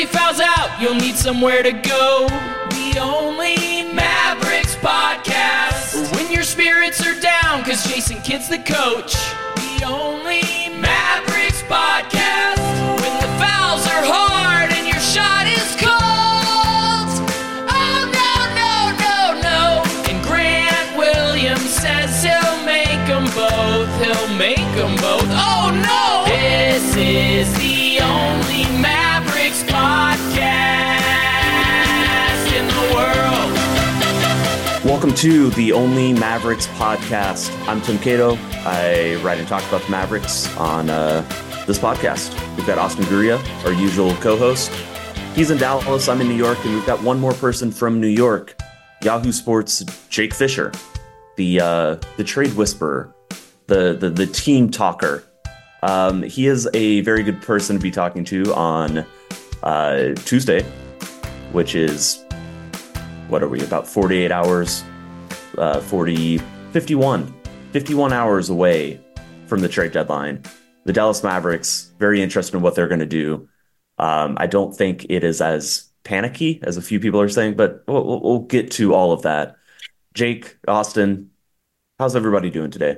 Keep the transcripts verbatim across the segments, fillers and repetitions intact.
fouls out, you'll need somewhere to go. The only Mavericks podcast. When your spirits are down, cause Jason Kidd's the coach. The only Mavericks podcast. When the fouls are hard and your shot is cold. Oh no, no, no, no. And Grant Williams says he'll make them both. He'll make them both. Oh no! This is the only Mavericks podcast in the world. Welcome to the Only Mavericks podcast. I'm Tim Cato. I write and talk about the Mavericks on uh, this podcast. We've got Austin Guria, our usual co-host. He's in Dallas, I'm in New York, and we've got one more person from New York, Yahoo Sports' Jake Fisher, the uh, the trade whisperer, the, the, the team talker. Um, he is a very good person to be talking to on uh, Tuesday, which is, what are we, about forty-eight hours, uh, forty, fifty-one, fifty-one hours away from the trade deadline. The Dallas Mavericks, very interested in what they're going to do. Um, I don't think it is as panicky as a few people are saying, but we'll, we'll get to all of that. Jake, Austin, how's everybody doing today?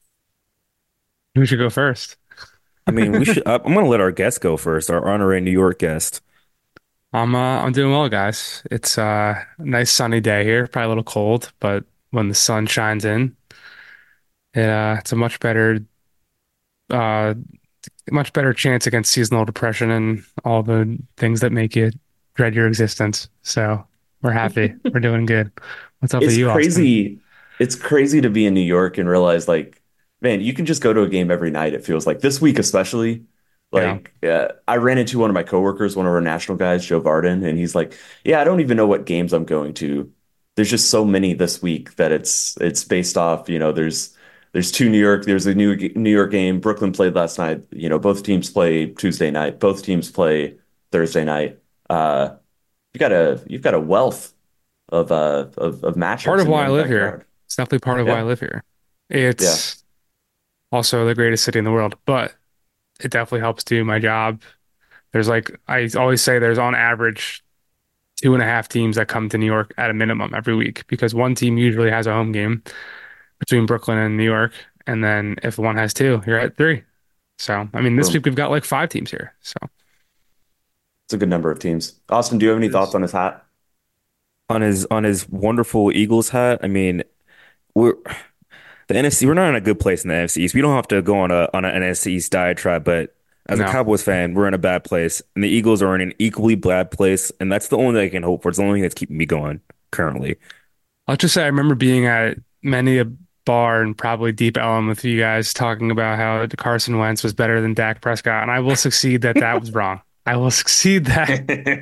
Who should go first? I mean, we should. I'm going to let our guest go first, our honorary New York guest. I'm uh, I'm doing well, guys. It's uh, a nice sunny day here. Probably a little cold, but when the sun shines in, it, uh, it's a much better, uh, much better chance against seasonal depression and all the things that make you dread your existence. So we're happy. We're doing good. What's up It's with you, crazy. Austin? It's crazy to be in New York and realize, like, man, you can just go to a game every night. It feels like this week, especially. Like, yeah. uh, I ran into one of my coworkers, one of our national guys, Joe Varden, and he's like, "Yeah, I don't even know what games I'm going to. There's just so many this week that it's it's based off. You know, there's there's two New York. There's a New New York game. Brooklyn played last night. You know, both teams play Tuesday night. Both teams play Thursday night. Uh, you got a you've got a wealth of uh of of matchups. Part of in why I your live backyard. here. It's definitely part of Yeah. why I live here. It's also the greatest city in the world, but it definitely helps do my job. There's like, I always say there's on average two and a half teams that come to New York at a minimum every week because one team usually has a home game between Brooklyn and New York. And then if one has two, you're at three. So, I mean, this Boom. week we've got like five teams here. So It's a good number of teams. Austin, do you have any thoughts on his hat? On his on his wonderful Eagles hat. I mean, we're the N F C. We're not in a good place in the N F C East. We don't have to go on a on an N F C East diatribe, but as No. a Cowboys fan, we're in a bad place, and the Eagles are in an equally bad place, and that's the only thing I can hope for. It's the only thing that's keeping me going currently. I'll just say I remember being at many a bar and probably Deep Ellum with you guys talking about how Carson Wentz was better than Dak Prescott, and I will succeed that that was wrong. I will succeed that.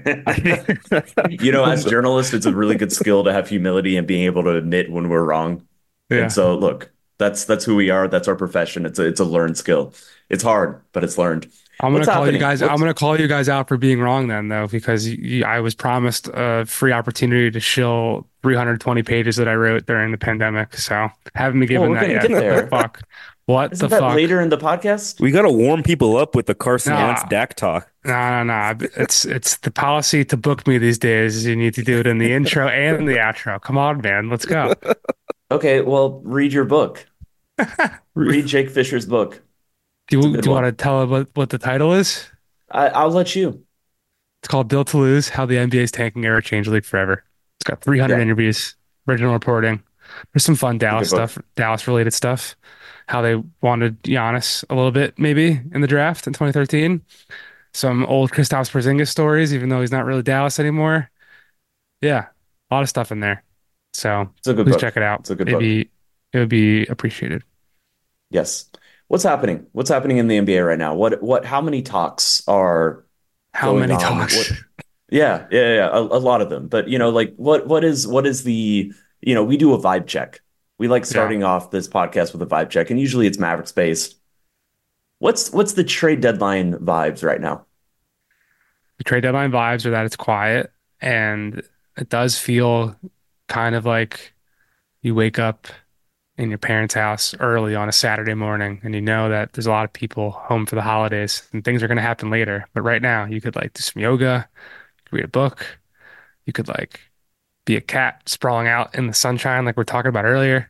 You know, as journalists, it's a really good skill to have humility and being able to admit when we're wrong. Yeah. And so, look, that's that's who we are. That's our profession. It's a it's a learned skill. It's hard, but it's learned. I'm gonna What's call happening? you guys. What's- I'm gonna call you guys out for being wrong then, though, because you, I was promised a free opportunity to shill three hundred twenty pages that I wrote during the pandemic. So haven't been given we're that gonna yet. get What there. the fuck? What Isn't the that fuck? later in the podcast? We got to warm people up with the Carson Nah. Wentz Dak talk. No, no, no. It's it's the policy to book me these days. You need to do it in the intro and the outro. Come on, man. Let's go. Okay, well, read your book. Read Jake Fisher's book. Do It's a you, good do you one. want to tell what, what the title is? I, I'll let you. It's called Built to Lose: How the N B A's Tanking Era Changed the League Forever. It's got three hundred Yeah. interviews, original reporting. There's some fun Dallas book. stuff, Dallas related stuff. How they wanted Giannis a little bit, maybe in the draft in twenty thirteen. Some old Kristaps Porzingis stories, even though he's not really Dallas anymore. Yeah, a lot of stuff in there. So It's a good please book. check it out. It's a good It'd book. be it would be appreciated. Yes. What's happening? What's happening in the N B A right now? What what? How many talks are How going many on? talks? What- Yeah, yeah, yeah, a, a lot of them. But you know, like what what is what is the you know, we do a vibe check. We like starting off this podcast with a vibe check, and usually it's Mavericks based. What's what's the trade deadline vibes right now? The trade deadline vibes are that it's quiet and it does feel kind of like you wake up in your parents' house early on a Saturday morning and you know that there's a lot of people home for the holidays and things are going to happen later. But right now you could like do some yoga, read a book. You could like be a cat sprawling out in the sunshine like we're talking about earlier.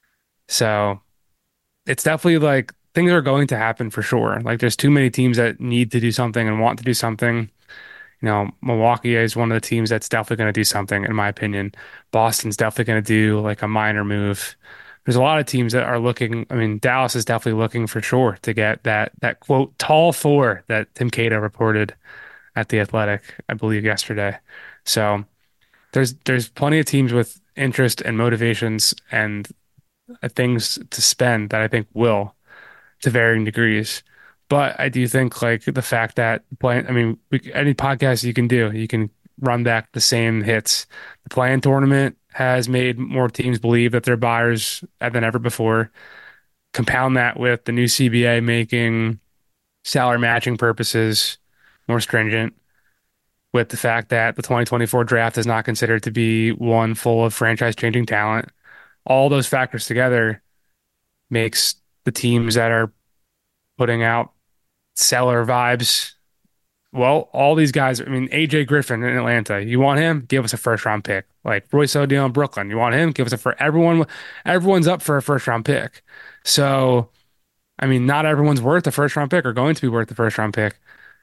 So it's definitely like things are going to happen for sure. Like there's too many teams that need to do something and want to do something. You know, Milwaukee is one of the teams that's definitely going to do something, in my opinion. Boston's definitely going to do like a minor move. There's a lot of teams that are looking. I mean, Dallas is definitely looking for sure to get that that quote tall four that Tim Cato reported at the Athletic, I believe, yesterday. So there's there's plenty of teams with interest and motivations and uh, things to spend that I think will to varying degrees. But I do think like the fact that playing, I mean, we, any podcast you can do, you can run back the same hits. The playing tournament has made more teams believe that they're buyers than ever before. Compound that with the new C B A making salary matching purposes more stringent, with the fact that the twenty twenty-four draft is not considered to be one full of franchise changing talent. All those factors together makes the teams that are putting out seller vibes. Well, all these guys, I mean, A J Griffin in Atlanta, you want him? Give us a first round pick. Like Royce O'Neal in Brooklyn, you want him? Give us a first. Everyone, everyone's up for a first round pick. So, I mean, not everyone's worth a first round pick or going to be worth the first round pick.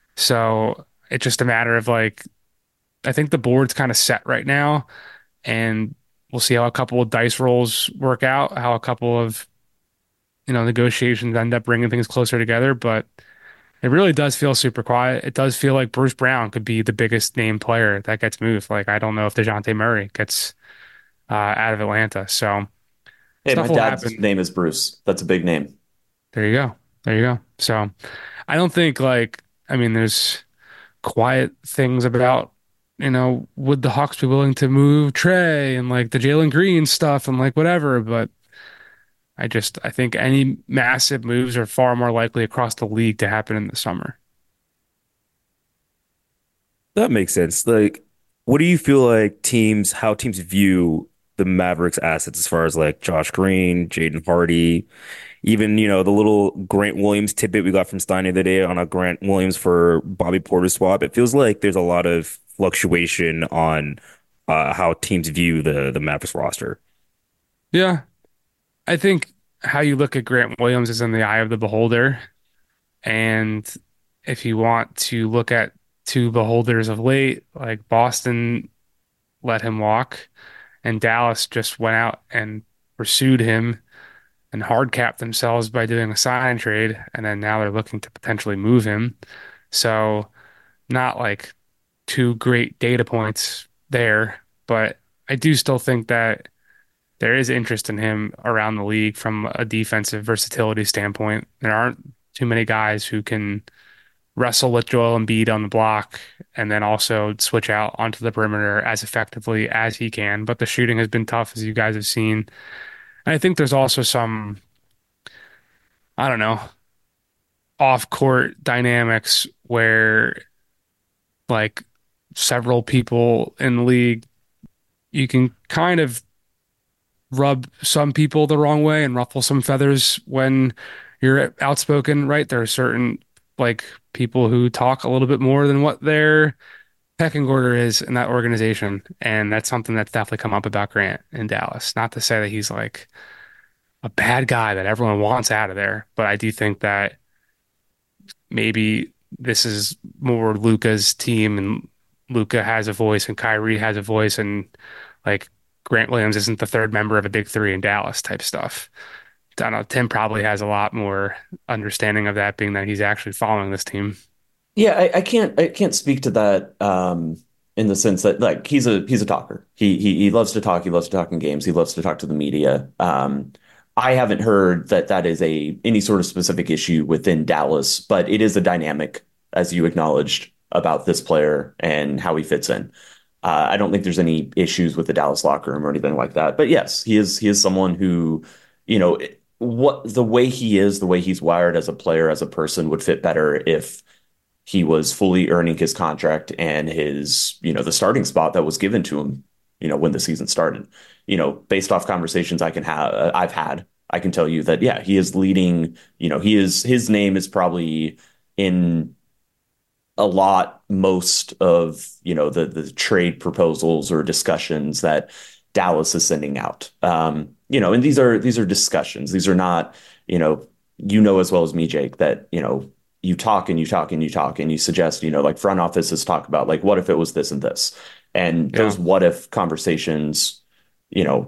So it's just a matter of like, I think the board's kind of set right now, and we'll see how a couple of dice rolls work out, how a couple of, you know, negotiations end up bringing things closer together. But it really does feel super quiet. It does feel like Bruce Brown could be the biggest name player that gets moved. Like, I don't know if DeJounte Murray gets uh, out of Atlanta. So Hey, my stuff will dad's happen. name is Bruce. That's a big name. There you go. There you go. So I don't think like, I mean, there's quiet things about, you know, would the Hawks be willing to move Trey and like the Jalen Green stuff and like whatever. But I just, I think any massive moves are far more likely across the league to happen in the summer. That makes sense. Like, what do you feel like teams, how teams view the Mavericks assets as far as like Josh Green, Jaden Hardy, even, you know, the little Grant Williams tidbit we got from Stein the other day on a Grant Williams for Bobby Porter swap. It feels like there's a lot of fluctuation on uh, how teams view the the Mavericks roster. Yeah. I think how you look at Grant Williams is in the eye of the beholder. And if you want to look at two beholders of late, like Boston let him walk, and Dallas just went out and pursued him and hard capped themselves by doing a sign and trade, and then now they're looking to potentially move him. So not like two great data points there, but I do still think that there is interest in him around the league from a defensive versatility standpoint. There aren't too many guys who can wrestle with Joel Embiid on the block and then also switch out onto the perimeter as effectively as he can. But the shooting has been tough, as you guys have seen. And I think there's also some, I don't know, off-court dynamics where like several people in the league, you can kind of rub some people the wrong way and ruffle some feathers when you're outspoken, right? There are certain like people who talk a little bit more than what their pecking order is in that organization. And that's something that's definitely come up about Grant in Dallas. Not to say that he's like a bad guy that everyone wants out of there, but I do think that maybe this is more Luka's team and Luka has a voice and Kyrie has a voice and like Grant Williams isn't the third member of a big three in Dallas type stuff. I don't know. Tim probably has a lot more understanding of that, being that he's actually following this team. Yeah, I, I can't I can't speak to that um, in the sense that like he's a he's a talker. He he he loves to talk. He loves to talk in games. He loves to talk to the media. Um, I haven't heard that that is a any sort of specific issue within Dallas, but it is a dynamic, as you acknowledged, about this player and how he fits in. Uh, I don't think there's any issues with the Dallas locker room or anything like that. But yes, he is he is someone who, you know, what the way he is, the way he's wired as a player, as a person would fit better if he was fully earning his contract and his, you know, the starting spot that was given to him, you know, when the season started. You know, based off conversations I can have, I've had, I can tell you that, yeah, he is leading, you know, he is, his name is probably in a lot most of, you know, the the trade proposals or discussions that Dallas is sending out. Um, you know, and these are these are discussions. These are not, you know, you know as well as me, Jake, that, you know, you talk and you talk and you talk and you suggest, you know, like front offices talk about like, what if it was this and this? And Yeah. those what if conversations, you know,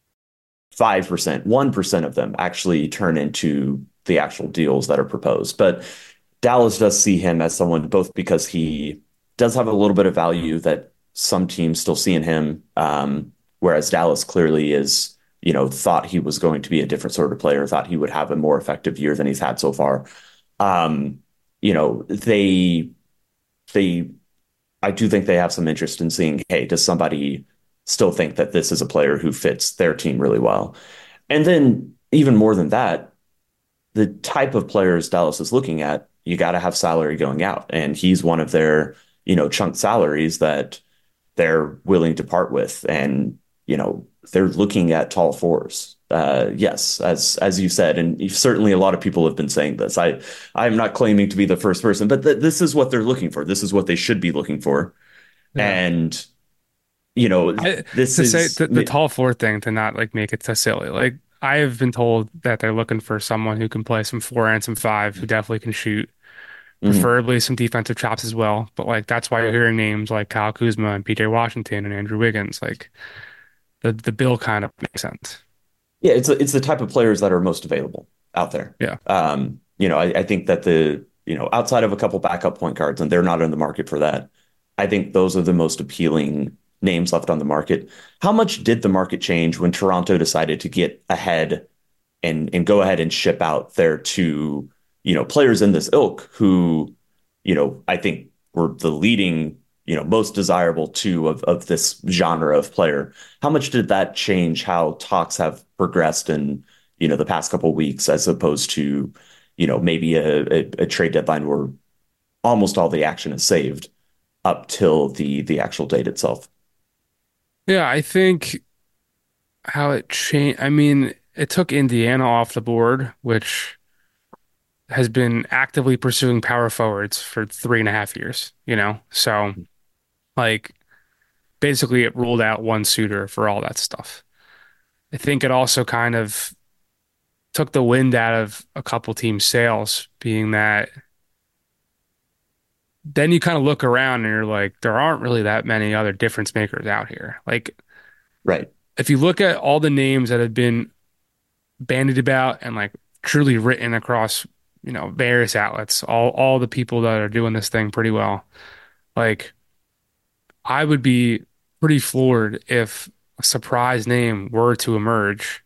five percent, one percent of them actually turn into the actual deals that are proposed. But Dallas does see him as someone both because he does have a little bit of value that some teams still see in him, um, whereas Dallas clearly is, you know, thought he was going to be a different sort of player, thought he would have a more effective year than he's had so far. Um, you know, they they I do think they have some interest in seeing, hey, does somebody still think that this is a player who fits their team really well? And then even more than that, the type of players Dallas is looking at, you got to have salary going out. And he's one of their, you know, chunk salaries that they're willing to part with. And, you know, they're looking at tall fours. Uh, yes, as as you said, and certainly a lot of people have been saying this. I I'm not claiming to be the first person, but th this is what they're looking for. This is what they should be looking for. Yeah. And, you know, I, this to say is, the, the tall four thing, to not like make it so silly. Like I have been told that they're looking for someone who can play some four and some five, who definitely can shoot, mhm, preferably some defensive chops as well. But like that's why you're hearing names like Kyle Kuzma and P J Washington and Andrew Wiggins. Like the the bill kind of makes sense. yeah, it's it's the type of players that are most available out there. Yeah. Um, you know, I, I think that the, you know, outside of a couple backup point guards, and they're not in the market for that, I think those are the most appealing names left on the market. How much did the market change when Toronto decided to get ahead and and go ahead and ship out their two, you know, players in this ilk who, you know, I think were the leading, you know, most desirable two of of this genre of player. How much did that change how talks have progressed in, you know, the past couple of weeks as opposed to, you know, maybe a, a, a trade deadline where almost all the action is saved up till the the actual date itself? Yeah, I think how it changed. I mean, it took Indiana off the board, which has been actively pursuing power forwards for three and a half years, you know? So, like, basically, it ruled out one suitor for all that stuff. I think it also kind of took the wind out of a couple teams' sails, being that then you kind of look around and you're like, there aren't really that many other difference makers out here. Like, Right. if you look at all the names that have been bandied about and like truly written across, you know, various outlets, all all the people that are doing this thing pretty well. Like I would be pretty floored if a surprise name were to emerge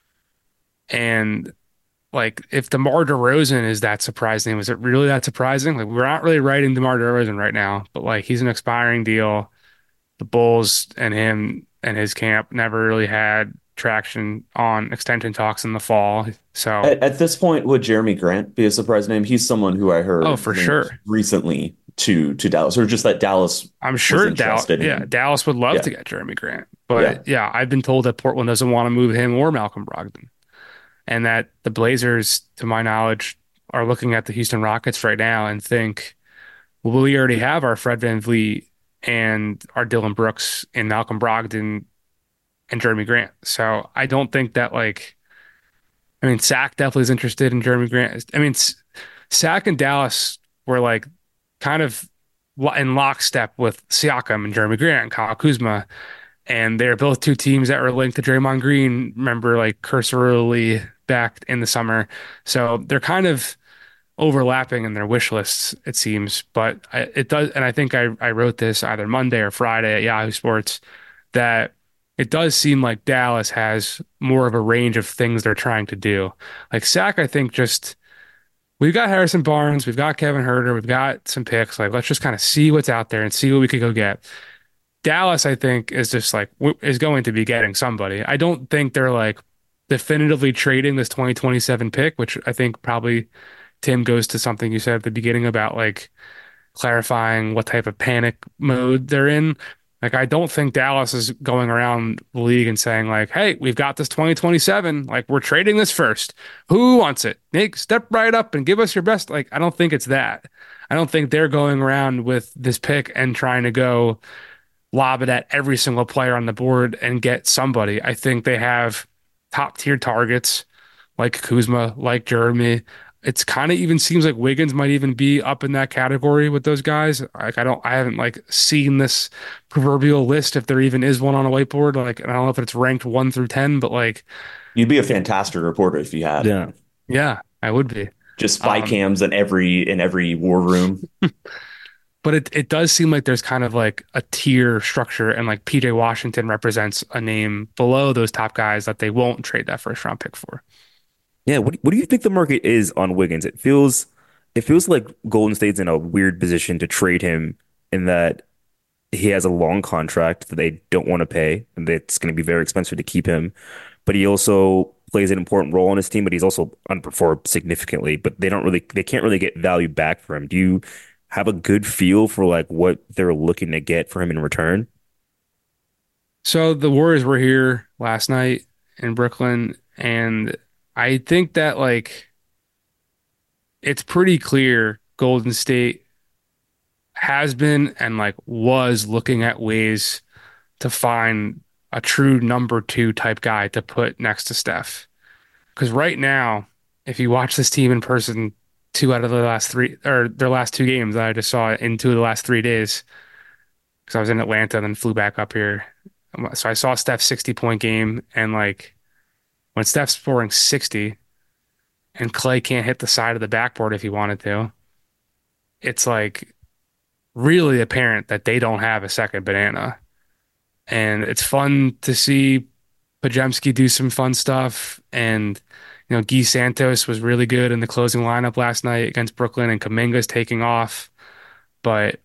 and like if DeMar DeRozan is that surprise name, is it really that surprising? Like we're not really writing DeMar DeRozan right now, but like he's an expiring deal. The Bulls and him and his camp never really had traction on extension talks in the fall. So At, at this point, would Jeremy Grant be a surprise name? He's someone who I oh, heard for linked sure. recently to to Dallas, or just that Dallas I'm was sure Dallas, interested yeah, in. Dallas would love Yeah, to get Jeremy Grant. yeah, But yeah, I've been told that Portland doesn't want to move him or Malcolm Brogdon, and that the Blazers, to my knowledge, are looking at the Houston Rockets right now and think, well, we already have our Fred VanVleet and our Dylan Brooks and Malcolm Brogdon and Jeremy Grant. So I don't think that like, I mean, Sack definitely is interested in Jeremy Grant. I mean, S- Sack and Dallas were like kind of lo- in lockstep with Siakam and Jeremy Grant and Kyle Kuzma. And they're both two teams that were linked to Draymond Green, remember, like cursorily back in the summer. So they're kind of overlapping in their wish lists, it seems. But I, it does, and I think I, I wrote this either Monday or Friday at Yahoo Sports that it does seem like Dallas has more of a range of things they're trying to do. Like Sack, I think just we've got Harrison Barnes, we've got Kevin Herter, we've got some picks. Like let's just kind of see what's out there and see what we could go get. Dallas, I think, is just like w- is going to be getting somebody. I don't think they're like definitively trading this twenty twenty-seven pick, which I think probably Tim goes to something you said at the beginning about like clarifying what type of panic mode they're in. Like, I don't think Dallas is going around the league and saying, like, hey, we've got this twenty twenty-seven. Like, we're trading this first. Who wants it? Nick, step right up and give us your best. Like, I don't think it's that. I don't think they're going around with this pick and trying to go lob it at every single player on the board and get somebody. I think they have top tier targets like Kuzma, like Jeremy. It's kind of even seems like Wiggins might even be up in that category with those guys. Like I don't, I haven't like seen this proverbial list if there even is one on a whiteboard. Like I don't know if it's ranked one through ten, but like, You'd be a fantastic reporter if you had Yeah. yeah, I would be. just spy Um, cams in every in every war room. but it it does seem like there's kind of like a tier structure, and like P J Washington represents a name below those top guys that they won't trade that first round pick for. Yeah, what what do you think the market is on Wiggins? It feels it feels like Golden State's in a weird position to trade him in that he has a long contract that they don't want to pay, and it's going to be very expensive to keep him. But he also plays an important role on his team, but he's also underperformed significantly. But they don't really they can't really get value back for him. Do you have a good feel for like what they're looking to get for him in return? So the Warriors were here last night in Brooklyn, and I think that like it's pretty clear Golden State has been and like was looking at ways to find a true number two type guy to put next to Steph. Because right now, if you watch this team in person, two out of the last three or their last two games that I just saw in two of the last three days, because I was in Atlanta and then flew back up here. So I saw Steph's sixty point game, and like when Steph's scoring sixty and Clay can't hit the side of the backboard if he wanted to, it's like really apparent that they don't have a second banana. And it's fun to see Pajemski do some fun stuff. And, you know, Guy Santos was really good in the closing lineup last night against Brooklyn, and Kuminga's taking off. But,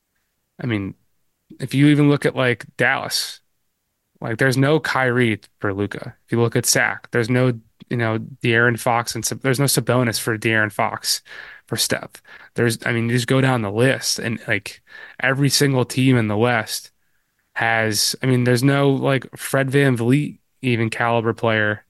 I mean, if you even look at like Dallas, like there's no Kyrie for Luca. If you look at Sac, there's no, you know, De'Aaron Fox, and Sab- there's no Sabonis for De'Aaron Fox for Steph. There's, I mean, you just go down the list, and like every single team in the West has, I mean, there's no like Fred VanVleet even caliber player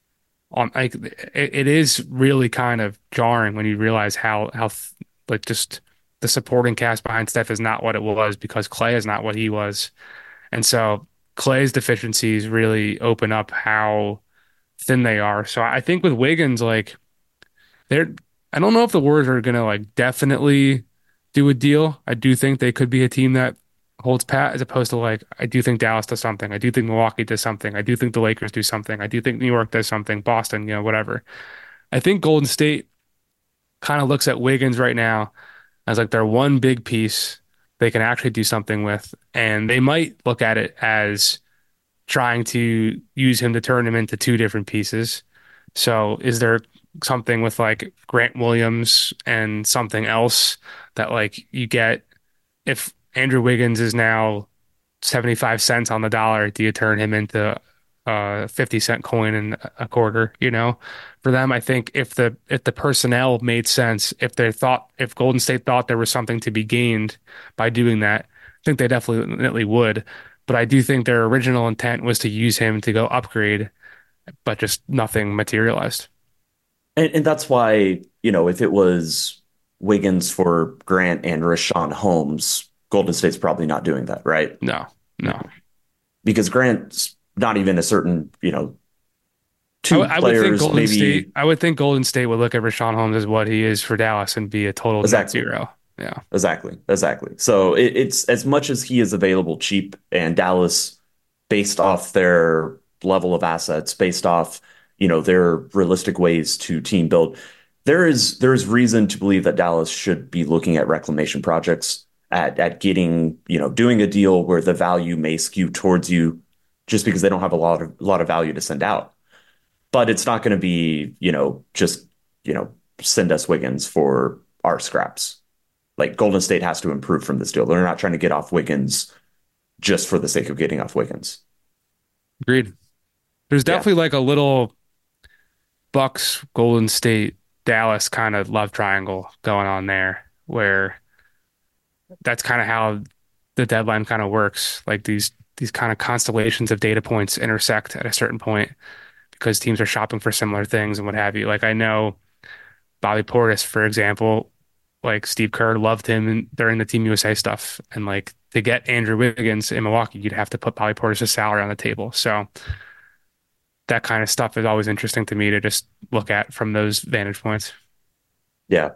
on like it, it is really kind of jarring when you realize how how like just the supporting cast behind Steph is not what it was because Clay is not what he was. And so Clay's deficiencies really open up how thin they are. So I think with Wiggins, like they're, I don't know if the Warriors are gonna like definitely do a deal. I do think they could be a team that holds pat as opposed to like I do think Dallas does something. I do think Milwaukee does something. I do think the Lakers do something. I do think New York does something. Boston, you know, whatever. I think Golden State kind of looks at Wiggins right now as like their one big piece they can actually do something with, and they might look at it as trying to use him to turn him into two different pieces. So is there something with like Grant Williams and something else that like you get if Andrew Wiggins is now seventy-five cents on the dollar, do you turn him into a fifty cent coin and a quarter, you know? For them, I think if the if the personnel made sense, if they thought if Golden State thought there was something to be gained by doing that, I think they definitely would. But I do think their original intent was to use him to go upgrade, but just nothing materialized. And, and that's why, you know, if it was Wiggins for Grant and Rashawn Holmes, Golden State's probably not doing that, right? No, no. Because Grant's not even a certain, you know, I, two w- I would think players, Golden maybe State. I would think Golden State would look at Rashawn Holmes as what he is for Dallas and be a total net exactly, zero. Yeah, exactly, exactly. So it, it's as much as he is available cheap and Dallas, based off their level of assets, based off, you know, their realistic ways to team build, there is there is reason to believe that Dallas should be looking at reclamation projects, at at getting, you know, doing a deal where the value may skew towards you just because they don't have a lot of a lot of value to send out. But it's not going to be, you know, just, you know, send us Wiggins for our scraps. Like Golden State has to improve from this deal. They're not trying to get off Wiggins just for the sake of getting off Wiggins. agreed. There's Yeah. definitely like a little Bucks, Golden State, Dallas kind of love triangle going on there, where that's kind of how the deadline kind of works. Like these these kind of constellations of data points intersect at a certain point because teams are shopping for similar things and what have you. Like I know Bobby Portis, for example, like Steve Kerr loved him in, during the Team U S A stuff. And like to get Andrew Wiggins in Milwaukee, you'd have to put Bobby Portis' salary on the table. So that kind of stuff is always interesting to me to just look at from those vantage points. Yeah.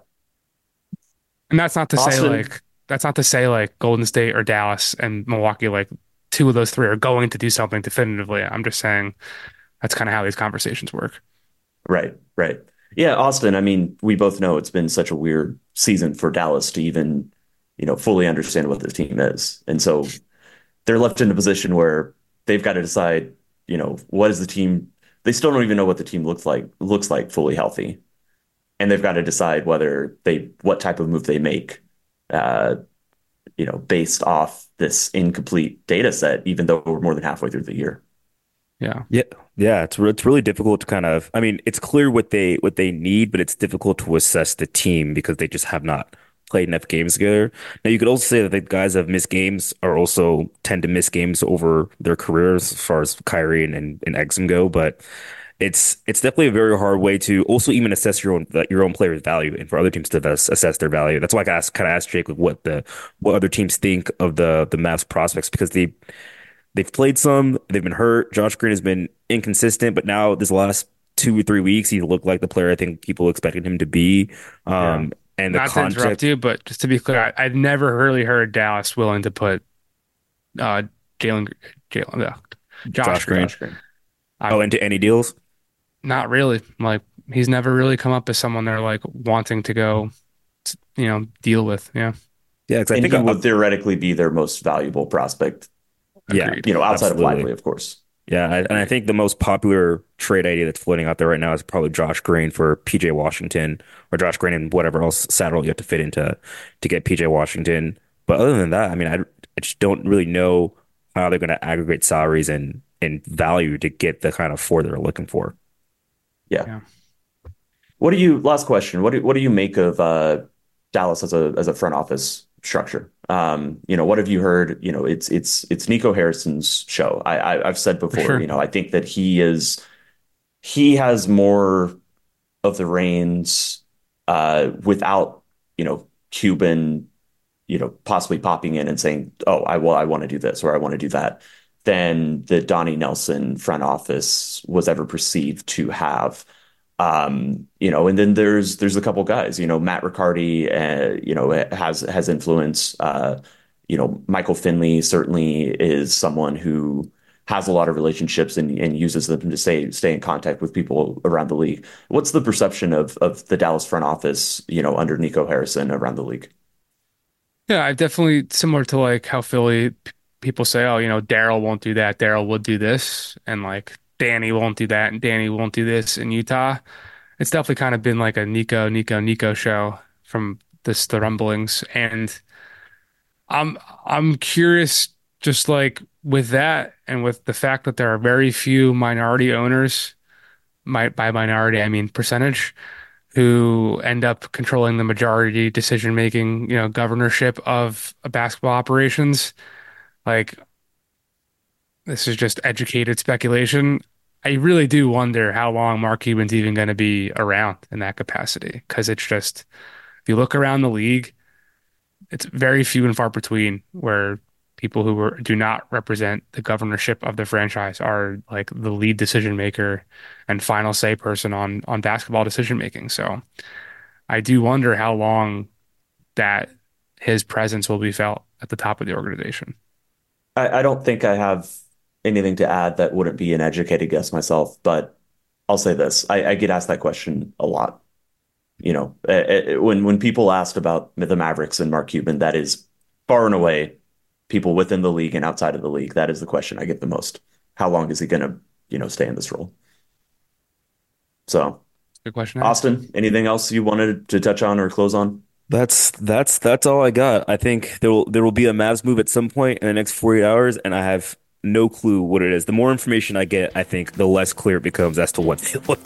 And that's not to say Austin, like that's not to say like Golden State or Dallas and Milwaukee, like two of those three are going to do something definitively. I'm just saying that's kind of how these conversations work. right, right. Yeah, Austin, I mean, we both know it's been such a weird season for Dallas to even, you know, fully understand what this team is. And so they're left in a position where they've got to decide, you know, what is the team? They still don't even know what the team looks like, looks like fully healthy. And they've got to decide whether they, what type of move they make, uh, you know, based off this incomplete data set, even though we're more than halfway through the year. Yeah. Yeah, yeah, it's re it's really difficult to kind of. I mean, it's clear what they what they need, but it's difficult to assess the team because they just have not played enough games together. Now, you could also say that the guys that have missed games are also tend to miss games over their careers as far as Kyrie and and, and Exum go, but it's it's definitely a very hard way to also even assess your own your own player's value and for other teams to assess, assess their value. That's why I asked, kind of asked Jake like what the what other teams think of the the Mavs prospects because they they've played some, they've been hurt. Josh Green has been inconsistent, but now this last two or three weeks, he looked like the player I think people expected him to be. Yeah. Um, and the Not to interrupt contract, you, but just to be clear, I, I've never really heard Dallas willing to put uh Jalen Jalen uh, Josh Josh Green. Josh Green. I, Oh, into any deals? not really. Like he's never really come up as someone they're like wanting to go, you know, deal with. Yeah. Yeah, because I And think he I, would theoretically be their most valuable prospect, yeah, Agreed. you know, outside of absolutely. Lively, of course. Yeah, I, and I think the most popular trade idea that's floating out there right now is probably Josh Green for P J Washington or Josh Green and whatever else saddle you have to fit into to get P J Washington. But other than that, I mean, I, I just don't really know how they're going to aggregate salaries and and value to get the kind of four they're looking for. Yeah. Yeah. What do you, last question, what do, what do you make of uh, Dallas as a as a front office structure? Um, you know, what have you heard? You know, it's it's it's Nico Harrison's show. I, I I've said before, sure. you know, I think that he is he has more of the reins uh, without, you know, Cuban, you know, possibly popping in and saying, "Oh, I well, I want to do this or I want to do that," than the Donnie Nelson front office was ever perceived to have. Um, you know, and then there's there's a couple guys, you know, Matt Riccardi, uh, you know, has has influence. Uh, you know, Michael Finley certainly is someone who has a lot of relationships and, and uses them to stay stay in contact with people around the league. What's the perception of of the Dallas front office, you know, under Nico Harrison around the league? Yeah, I've definitely similar to like how Philly p- people say, oh, you know, Daryl won't do that, Daryl would do this, and like Danny won't do that, and Danny won't do this in Utah. It's definitely kind of been like a Nico, Nico, Nico show from this the rumblings, and I'm I'm curious, just like with that, and with the fact that there are very few minority owners, my by minority I mean percentage, who end up controlling the majority decision making, you know, governorship of basketball operations. Like this is just educated speculation. I really do wonder how long Mark Cuban's even going to be around in that capacity. Because it's just, if you look around the league, it's very few and far between where people who were, do not represent the governorship of the franchise are like the lead decision maker and final say person on on basketball decision making. So I do wonder how long that his presence will be felt at the top of the organization. I, I don't think I have anything to add that wouldn't be an educated guess myself, but I'll say this. I, I get asked that question a lot. You know, uh, uh, when when people asked about the Mavericks and Mark Cuban, that is far and away people within the league and outside of the league. That is the question I get the most. How long is he going to, you know, stay in this role? So, Good question. Austin, anything else you wanted to touch on or close on? That's that's that's all I got. I think there will there will be a Mavs move at some point in the next forty-eight hours, and I have no clue what it is. The more information I get, I think the less clear it becomes as to what they look.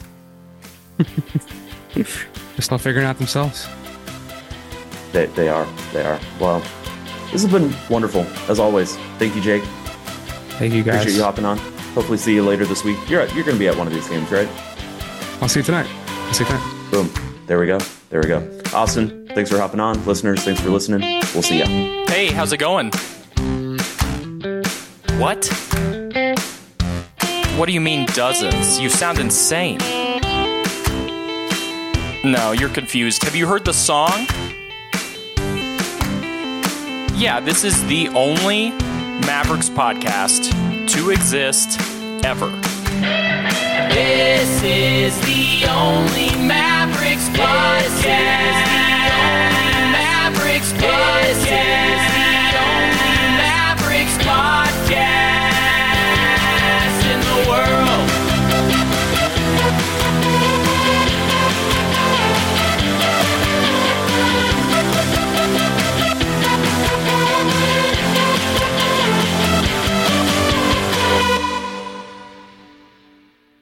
They're still figuring out themselves. They, they are. They are. Well, this has been wonderful, as always. Thank you, Jake. Thank you, guys. Appreciate you hopping on. Hopefully see you later this week. You're at, you're going to be at one of these games, right? I'll see you tonight. I'll see you tonight. Boom. There we go. There we go. Austin, thanks for hopping on. Listeners, thanks for listening. We'll see ya. Hey, how's it going? What? What do you mean dozens? You sound insane. No, you're confused. Have you heard the song? Yeah, this is the only Mavericks podcast to exist ever. This is the only Mavericks podcast. This is the only Mavericks podcast.